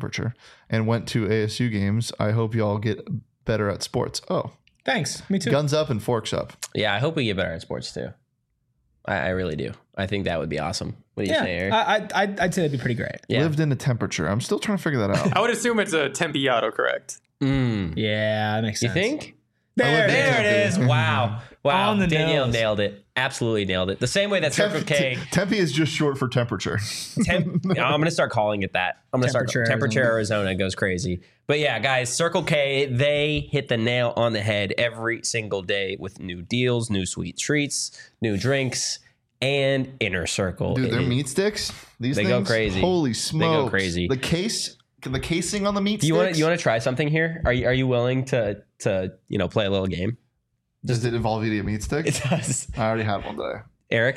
ASU games. I hope y'all get better at sports. Oh,
Thanks. Me too.
guns up and forks up.
Yeah, I hope we get better at sports too. I really do. I think that would be awesome. What do you
Yeah,
say, Eric?
I'd say that'd be pretty great.
Yeah.
Lived in a temperature. I'm still trying to figure that out.
I would assume it's a Tempe autocorrect.
Yeah, that makes
You
sense.
think?
There,
lived in
There it is. Wow. Wow.
On the
Danielle
nose.
nailed it. Absolutely nailed it. The same way that Circle K.
Tempe is just short for temperature.
I'm going to start calling it that. I'm going to start
Temperature
Arizona goes crazy. But yeah, guys, Circle K, they hit the nail on the head every single day with new deals, new sweet treats, new drinks, and Inner Circle.
Dude, their
It is-
mean sticks, these
They
things,
go crazy.
Holy
They
smokes.
go crazy.
The casing on the meat
Do you
sticks.
want to try something here? Are you willing to play a little game?
Does it involve eating a meat stick?
It does.
I already had one today.
Eric,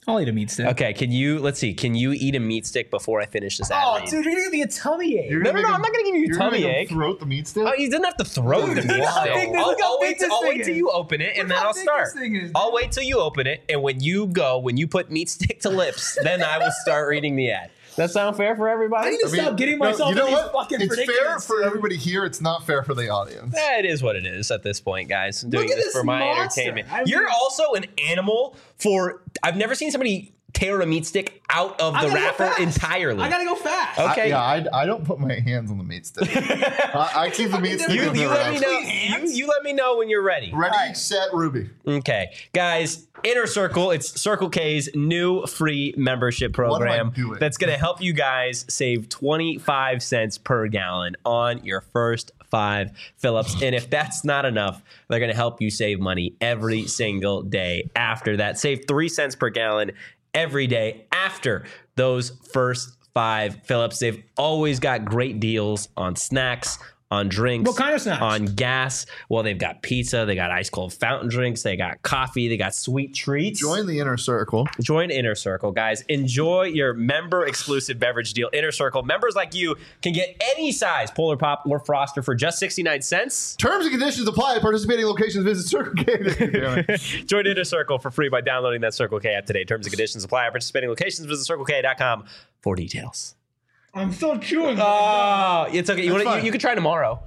I'll eat a meat stick.
Okay, can you eat a meat stick before I finish this ad
Oh,
read?
dude, you're gonna give me a tummy ache.
No, I'm not gonna give you a tummy ache.
Throat the meat stick.
Oh, he doesn't have to throw the meat
look how big
stick.
this- look how big this
I'll
thing
wait till
is.
you open it, and then
how
I'll
big
start.
this thing is,
I'll wait till you open it, and when you put meat stick to lips, then I will start reading the ad. That sound fair for everybody?
I need to stop getting myself
you know
in these
what?
fucking
It's fair
predicaments.
for everybody here. It's not fair for the audience.
It is what it is at this point, guys. I'm doing
at
this
this
for my
monster.
entertainment.
I mean-
You're also an animal for. I've never seen somebody tear a meat stick out of the
gotta go
wrapper
fast.
entirely.
I gotta go fast.
Okay.
I don't put my hands on the meat stick. I keep the meat stick
You
in the
let me
wrap.
know. You let me know when you're ready.
Ready, set, Ruby.
Okay, guys, Inner Circle, it's Circle K's new free membership program
doing?
that's going to help you guys save 25 cents per gallon on your first 5 fill-ups. And if that's not enough, they're going to help you save money every single day after that. Save 3 cents per gallon every day after those first 5 fill-ups. They've always got great deals on snacks, on drinks.
What kind of snacks?
On gas. Well, they've got pizza. They got ice cold fountain drinks. They got coffee. They got sweet treats.
Join the Inner Circle.
Join Inner Circle, guys. Enjoy your member-exclusive beverage deal. Inner Circle. Members like you can get any size Polar Pop or Froster for just 69 cents.
Terms and conditions apply. Participating locations visit Circle K.
Join Inner Circle for free by downloading that Circle K app today. Terms and conditions apply. Participating locations visit CircleK.com for details.
I'm still chewing.
Oh, it's okay.
fine.
You can try tomorrow.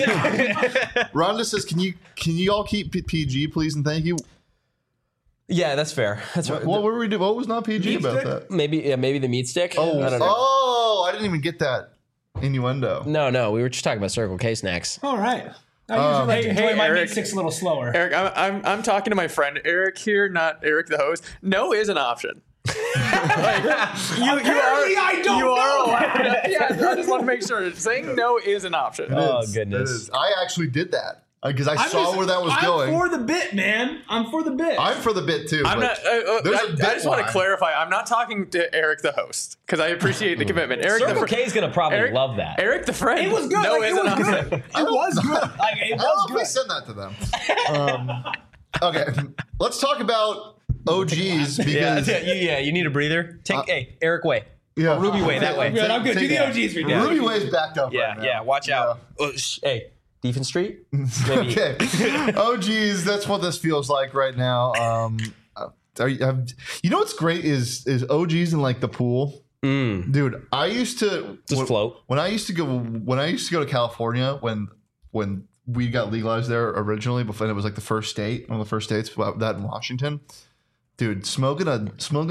Rhonda says, "Can you all keep PG, please, and thank you."
Yeah, that's fair. That's right.
What were we doing? What was not PG about that?
Maybe the meat stick. I don't know.
Oh, I didn't even get that innuendo.
No, we were just talking about Circle K snacks.
All right. I usually like to
Hey,
enjoy my
Eric.
meat sticks a little slower.
Eric, I'm talking to my friend Eric here, not Eric the host. No is an option.
Apparently, I don't
you
know
are
that.
allowed. Yeah, I just want to make sure. Saying no is an option.
Oh,
It is.
goodness.
It is. I actually did that because I saw where that was going.
I'm for the bit, man. I'm for the bit.
I'm for the bit too.
I'm
but
not.
there's a
I
bit
just want to
line.
clarify. I'm not talking to Eric the host because I appreciate the commitment. Eric
Circle
the
K is going to probably
Eric,
love that.
Eric the friend.
It was good.
No
Like,
is
it
an
was
option.
good. It was good. Like, it
I don't know
was
if we
good.
send that to them. Okay, let's talk about OGs because
You need a breather. Take Eric way.
yeah,
Ruby way that way.
I'm good. I'm good. Do the OGs for me.
Ruby Way's backed up.
Yeah,
right now.
yeah. Watch out. Hey, Defense Street. Maybe.
Okay. Oh, geez, that's what this feels like right now. You know what's great is OGs in like the pool, dude. I used to
Just float.
when I used to go to California when weed got legalized there originally. Before it was like the first state, one of the first states. That in Washington, dude, smoking a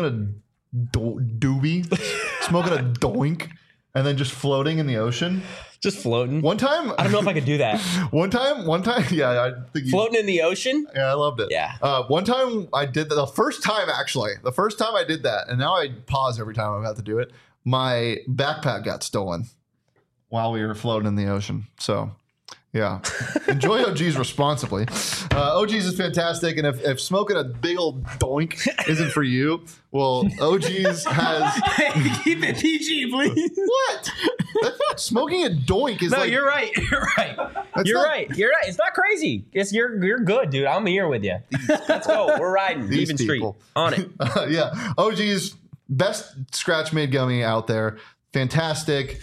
doobie, smoking a doink, and then just floating in the ocean.
Just floating.
One time,
I don't know if I could do that.
One time, yeah, I think you,
Floating in the ocean.
yeah, I loved it.
Yeah.
One time I did that. The first time I did that, and now I pause every time I'm about to do it. My backpack got stolen while we were floating in the ocean. So, yeah, enjoy OGs responsibly. OGs is fantastic, and if smoking a big old doink isn't for you, well, OGs has
Keep it PG, please.
what? That's not, smoking a doink is
No,
like
you're right. You're right.
That's
You're
not-
right. You're right. It's not crazy. You're good, dude. I'm here with you. Let's go. We're riding.
These
Even Street.
people.
On it.
Yeah, OG's best scratch made gummy out there. Fantastic.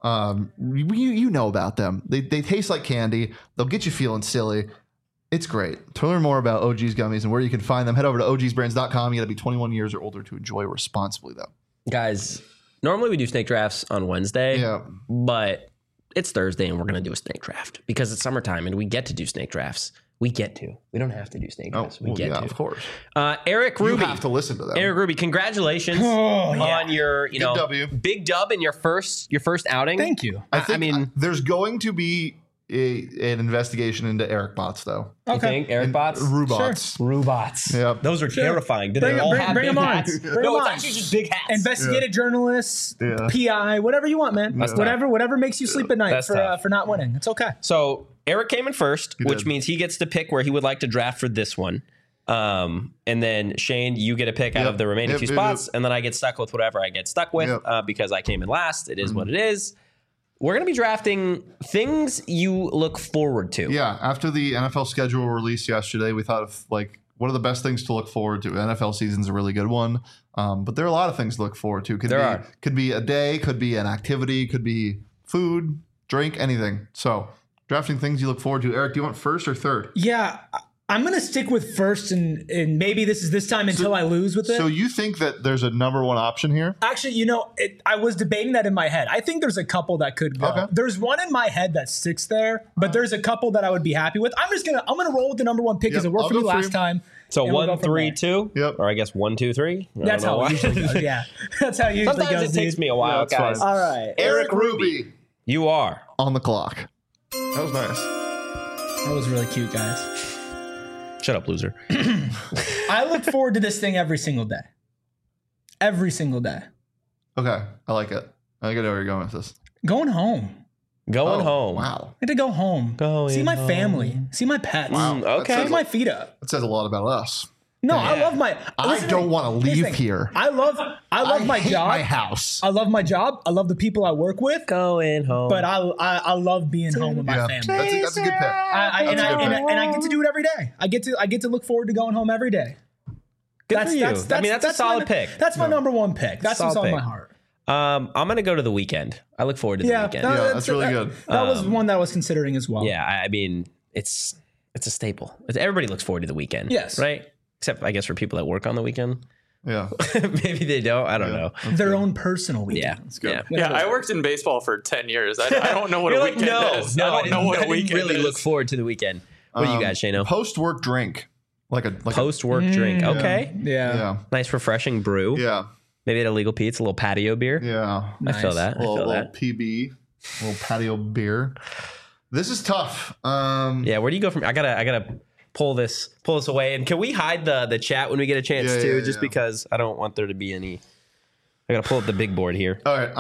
You know about them. They taste like candy. They'll get you feeling silly. It's great. To learn more about OG's gummies and where you can find them, head over to ogsbrands.com. You got to be 21 years or older to enjoy responsibly, though.
Guys, normally we do snake drafts on Wednesday.
Yeah.
But it's Thursday and we're going to do a snake draft because it's summertime and we get to do snake drafts. We get to. We don't have to do snake drafts. We get
yeah,
to.
of course.
Eric
You
Ruby.
have to listen to them.
Eric Ruby, congratulations
Oh, yeah.
on your,
W.
big dub in your first outing.
Thank you.
I
mean,
there's going to be an investigation into Eric bots, though.
you think Eric bots?
Rubots.
Robots.
Yep.
Those are terrifying. Do
Bring-
they all
bring-
have
bring
big
'em on.
hats?
Bring
No,
'em
it's
on.
actually just big hats.
Investigative journalists,
Yeah.
PI, whatever you want, man.
That's
Whatever makes you sleep at night
That's tough.
for not winning. It's okay.
So Eric came in first, which
did.
means he gets to pick where he would like to draft for this one. And then Shane, you get a pick out
Yep.
of the remaining
Yep,
two
yep,
spots,
yep.
and then I get stuck with whatever I get stuck with
Yep.
because I came in last. It is what it is. We're going to be drafting things you look forward to.
Yeah, after the NFL schedule released yesterday, we thought of like what are the best things to look forward to? NFL season's a really good one, but there are a lot of things to look forward to. Could be a day, could be an activity, could be food, drink, anything. So drafting things you look forward to. Eric, do you want first or third?
Yeah, I'm going to stick with first, and maybe this is this time until I lose with it.
So you think that there's a number one option here?
Actually, I was debating that in my head. I think there's a couple that could go.
Okay.
There's one in my head that sticks there, but there's a couple that I would be happy with. I'm gonna roll with the number one pick because it worked for me last time.
So
and we'll
1,
go from
3,
there.
2.
Yep.
Or I guess 1, 2, 3.
That's how it usually goes. Yeah, that's how it usually
Sometimes
goes.
it takes me a while,
that's
guys.
fine.
All right,
Eric Ruby
You are.
on the clock. That was nice.
that was really cute, guys.
Shut up, loser.
I look forward to this thing every single day. Every single day.
Okay, I like it. I get where you're going with this.
Going home.
Going home.
Wow.
I get to go home. See my
home.
family. See my pets.
Wow.
Okay.
Put my feet up.
That says a lot about us.
No, I love my.
I don't want to leave here.
I love my
hate
job.
my house.
I love my job. I love the people I work with.
Going home.
But I love being home with my
Yeah,
family.
that's a good pick.
And I get to do it every day. I get to look forward to going home every day.
Good for you. I mean, that's a solid pick.
That's my number one pick. That's what's
Solid
on my
pick.
heart.
I'm gonna go to the weekend. I look forward to the weekend.
Yeah, that's really good.
That was one that I was considering as well.
Yeah, I mean, it's a staple. Everybody looks forward to the weekend.
Yes.
Right? Except, I guess, for people that work on the weekend.
Yeah.
Maybe they don't. I don't know.
Their own personal weekend.
Yeah.
That's good.
Yeah, I worked in baseball for 10 years. I don't know what
You're
a
like,
weekend
no,
is.
no,
I don't know what a
didn't
weekend
really
is.
look forward to the weekend. What do you guys, Shano?
Post-work drink. Like a
Post-work drink. Okay.
Yeah.
Nice, refreshing brew.
Yeah.
Maybe at a legal Pete's, a little patio beer.
Yeah.
I feel that.
A little
I feel that.
PB, a little patio beer. This is tough.
Yeah, where do you go from? I gotta pull this away. And can we hide the chat when we get a chance
Yeah,
too?
yeah,
Just
yeah.
because I don't want there to be any. I gotta pull up the big board here.
All right.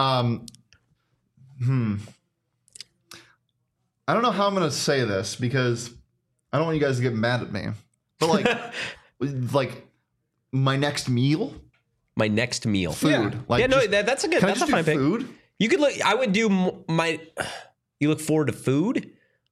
I don't know how I'm gonna say this because I don't want you guys to get mad at me. But like my next meal,
My next meal.
food.
Yeah.
Like
Yeah, no,
just-
that's a good.
can I
That's a
just do
fine pick.
food?
You could look. I would do my. You look forward to food.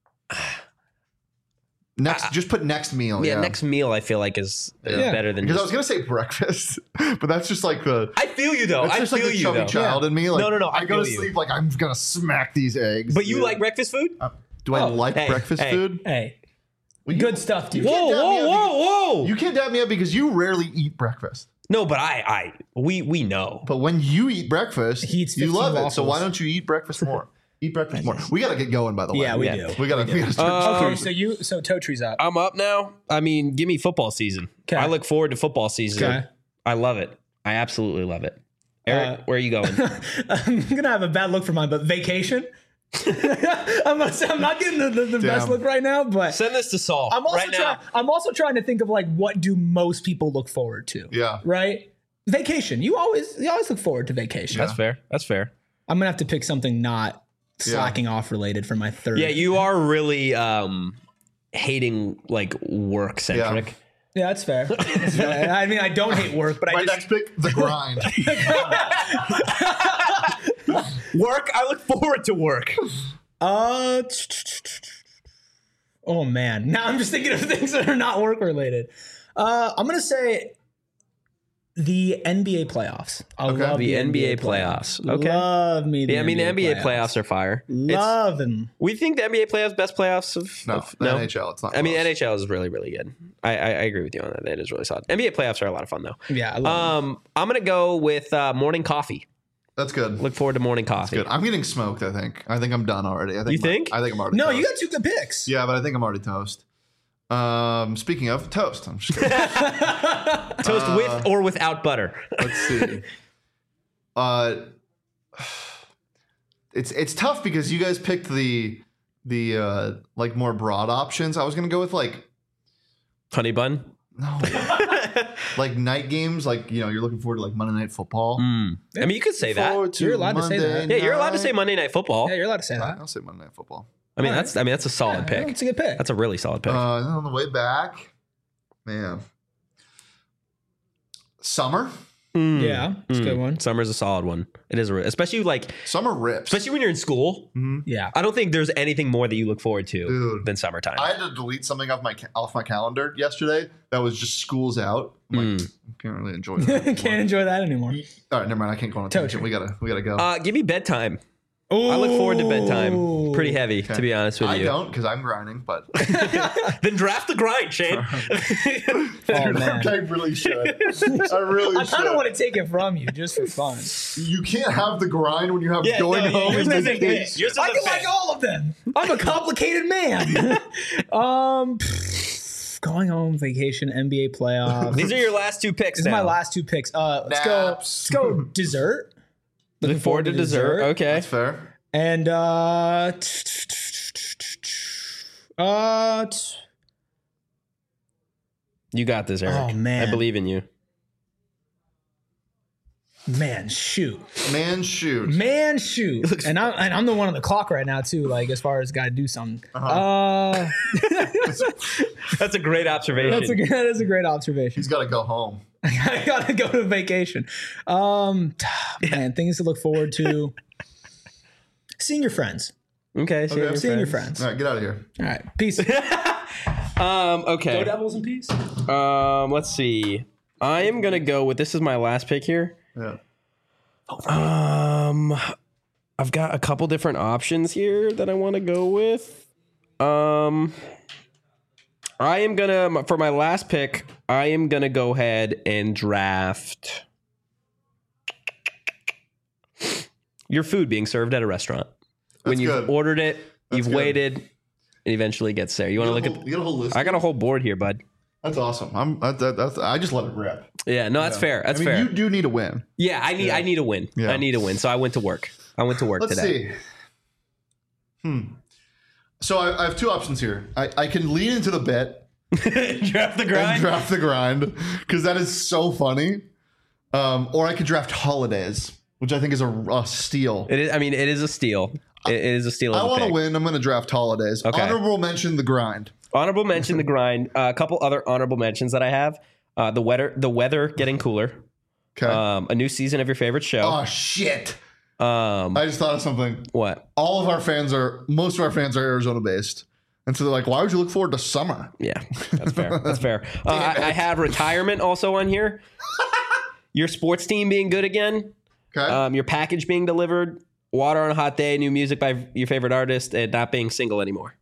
Next, just put next meal.
Yeah,
Yeah,
next meal. I feel like is better than.
Because I
Just,
was gonna say breakfast, but that's just like the.
I feel you though.
That's
I
just
feel
like the
you
chubby
though.
child in me. Like,
No,
I go to
feel you.
sleep like I'm gonna smack these eggs.
But you
dude.
like breakfast food?
Do I like
hey,
breakfast
hey.
food?
Hey,
Well,
good stuff, dude.
can't dab me up because-
whoa!
You can't dab me up because you rarely eat breakfast.
No, but we know.
But when you eat breakfast,
He eats
you
15
love it. So
waffles.
why don't you eat breakfast more? Eat breakfast more. We gotta get going, by the way.
Yeah, we
Yeah.
do.
We gotta start.
Okay, so toe tree's up.
I'm up now. I mean, give me football season.
'Kay.
I look forward to football season.
Okay.
I love it. I absolutely love it. Eric, where are you going?
I'm gonna have a bad look for mine, but vacation. I'm not getting the best look right now, but
Send this to Saul
I'm also
right now.
I'm also trying to think of like what do most people look forward to?
Yeah.
Right? Vacation. You always look forward to vacation.
That's fair. That's fair.
I'm gonna have to pick something not slacking off related for my third.
Yeah, you are really hating like work centric.
Yeah, that's fair. That's fair. I mean, I don't hate work, but
My
I just
next pick, the grind.
Work. I look forward to work.
oh man. Now I'm just thinking of things that are not work related. I'm gonna say the NBA playoffs. I love
The NBA playoffs. Okay.
Love me.
Yeah, I mean the NBA playoffs are fire.
Love them.
We think the NBA playoffs best playoffs of
No,
of-
the NHL. It's not.
I mean
close.
NHL is really really good. I agree with you on that. That is really solid. NBA playoffs are a lot of fun though.
Yeah, I love them.
I'm gonna go with morning coffee.
That's good.
Look forward to morning coffee.
Good. I'm getting smoked. I think I'm done already. I think
You think?
I think I'm already.
No,
toast.
you got two good picks.
Yeah, but I think I'm already toast. Speaking of toast, I'm just kidding.
Toast with or without butter.
Let's see. It's tough because you guys picked the like more broad options. I was gonna go with like
Honey bun.
no, like night games. Like you're looking forward to like Monday Night Football.
I mean, you could say that.
Forward to
You're allowed to say that.
Monday
Yeah, you're allowed to say
night.
Monday Night Football.
Yeah, you're allowed to say that.
I'll say Monday Night Football.
I mean, that's a solid pick.
It's a good pick.
That's a really solid pick.
Then on the way back, man, summer.
Yeah, it's a good one.
Summer's a solid one. It is, especially
Summer rips.
especially when you're in school.
Yeah.
I don't think there's anything more that you look forward to
Dude.
than summertime.
I had to delete something off my calendar yesterday that was just school's out. I'm like, I can't really enjoy that.
Can't enjoy that anymore.
All right, never mind. I can't go on a tangent. We gotta go.
Give me bedtime. I look forward to bedtime. Pretty heavy, to be honest with
I
you.
don't because I'm grinding, but
Then draft the grind, Shane.
Oh, man.
I really should. I really
I
should.
kind of want to take it from you just for fun.
You can't have the grind when you have
Yeah,
going
no,
home
yours
and
isn't
vacation.
good. Yours
I
isn't
can like
fair.
all of them. I'm a complicated man. Going home, vacation, NBA playoffs.
These are your last two picks.
These are my last two picks. Let's
Naps.
go dessert.
Looking forward to dessert. Okay.
That's fair.
And
You got this, Eric.
Oh, man.
I believe in you.
man, shoot.
Man, shoot.
And I'm the one on the clock right now too. Like as far as got to do something.
That's a great observation.
That is a great observation.
He's got to go home.
I gotta go to vacation. Man, things to look forward to. Seeing your friends.
Okay.
Seeing your friends.
All right, get out of here.
All right. Peace.
Okay.
Go Devils in peace.
Let's see. I am gonna go with this is my last pick here.
Yeah.
I've got a couple different options here that I want to go with. I am gonna for my last pick. I am gonna go ahead and draft your food being served at a restaurant. When you've
good.
ordered it, you've
good.
waited, it eventually gets there. You want to look at?
You got a whole list.
I got a whole board here, bud.
That's awesome. I just let it rip.
Yeah, no, that's fair. That's
I mean,
fair.
you do need a win.
Yeah, I need a win.
Yeah.
I need a win. So I went to work.
Let's
today.
see. So I have two options here. I can lean into the bet
Draft the
and
grind.
draft the grind because that is so funny. Or I could draft holidays, which I think is a steal.
It is. I mean, it is a steal. It is a steal.
I want to win. I'm going to draft holidays.
Okay.
Honorable mention the grind.
Honorable mention the grind. A couple other honorable mentions that I have. The weather getting cooler.
Okay.
A new season of your favorite show.
Oh shit!
Um,
I just thought of something.
what?
Most of our fans are Arizona based, and so they're like, "Why would you look forward to summer?"
Yeah, that's fair. That's fair. I have retirement also on here. Your sports team being good again.
Okay.
Your package being delivered. Water on a hot day. New music by your favorite artist, and not being single anymore.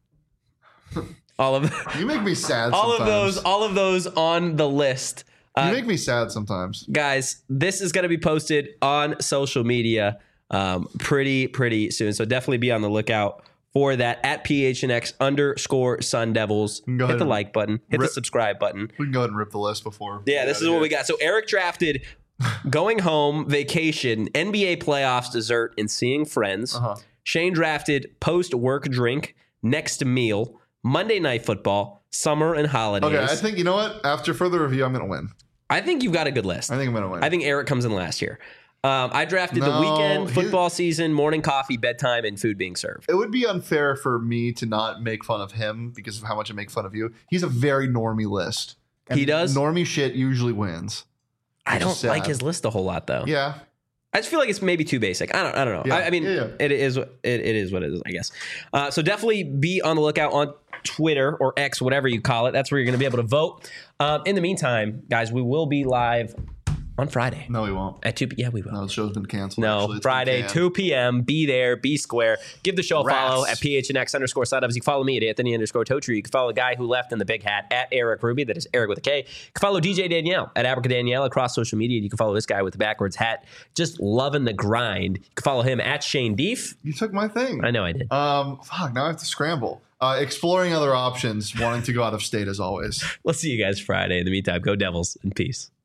All of
You make me sad.
all
sometimes.
of those on the list.
You make me sad sometimes.
Guys, this is going to be posted on social media pretty soon. So definitely be on the lookout for that at PHNX_Sun Devils.
Go
Hit
ahead
the
and
like button. Hit the
rip-
subscribe button.
We can go ahead and rip the list before.
Yeah, this is what we got. So Eric drafted going home, vacation, NBA playoffs, dessert, and seeing friends. Shane drafted post-work drink, next meal, Monday Night Football, summer and holidays.
Okay, I think you know what. After further review, I'm gonna win.
I think you've got a good list.
I think I'm gonna win.
I think Eric comes in last here. I drafted the
No,
weekend, football season, morning coffee, bedtime, and food being served.
it would be unfair for me to not make fun of him because of how much I make fun of you. He's a very normie list. And
He does?
Normie shit usually wins.
I
which is
don't
sad.
like his list a whole lot though.
Yeah.
I just feel like it's maybe too basic. I don't know.
Yeah.
I mean,
Yeah.
it is what it is, I guess. So definitely be on the lookout on Twitter or X, whatever you call it. That's where you're going to be able to vote. In the meantime, guys, we will be live on Friday
No, he won't.
at 2 p.m. Yeah, we will.
No, the show's been canceled.
No,
actually. It's been
Friday,
canned.
2 p.m. Be there, be square. Give the show a follow
Rats.
at PHNX_Sun. You can follow me at Anthony_Totri. You can follow the guy who left in the big hat at Eric Ruby. That is Eric with a K. You can follow DJ Danielle at Abrica Danielle across social media. You can follow this guy with the backwards hat, just loving the grind. You can follow him at Shane Deef.
You took my thing.
I know I did.
Fuck, now I have to scramble. Exploring other options, wanting to go out of state as always.
We'll see you guys Friday. In the meantime, go Devils and peace.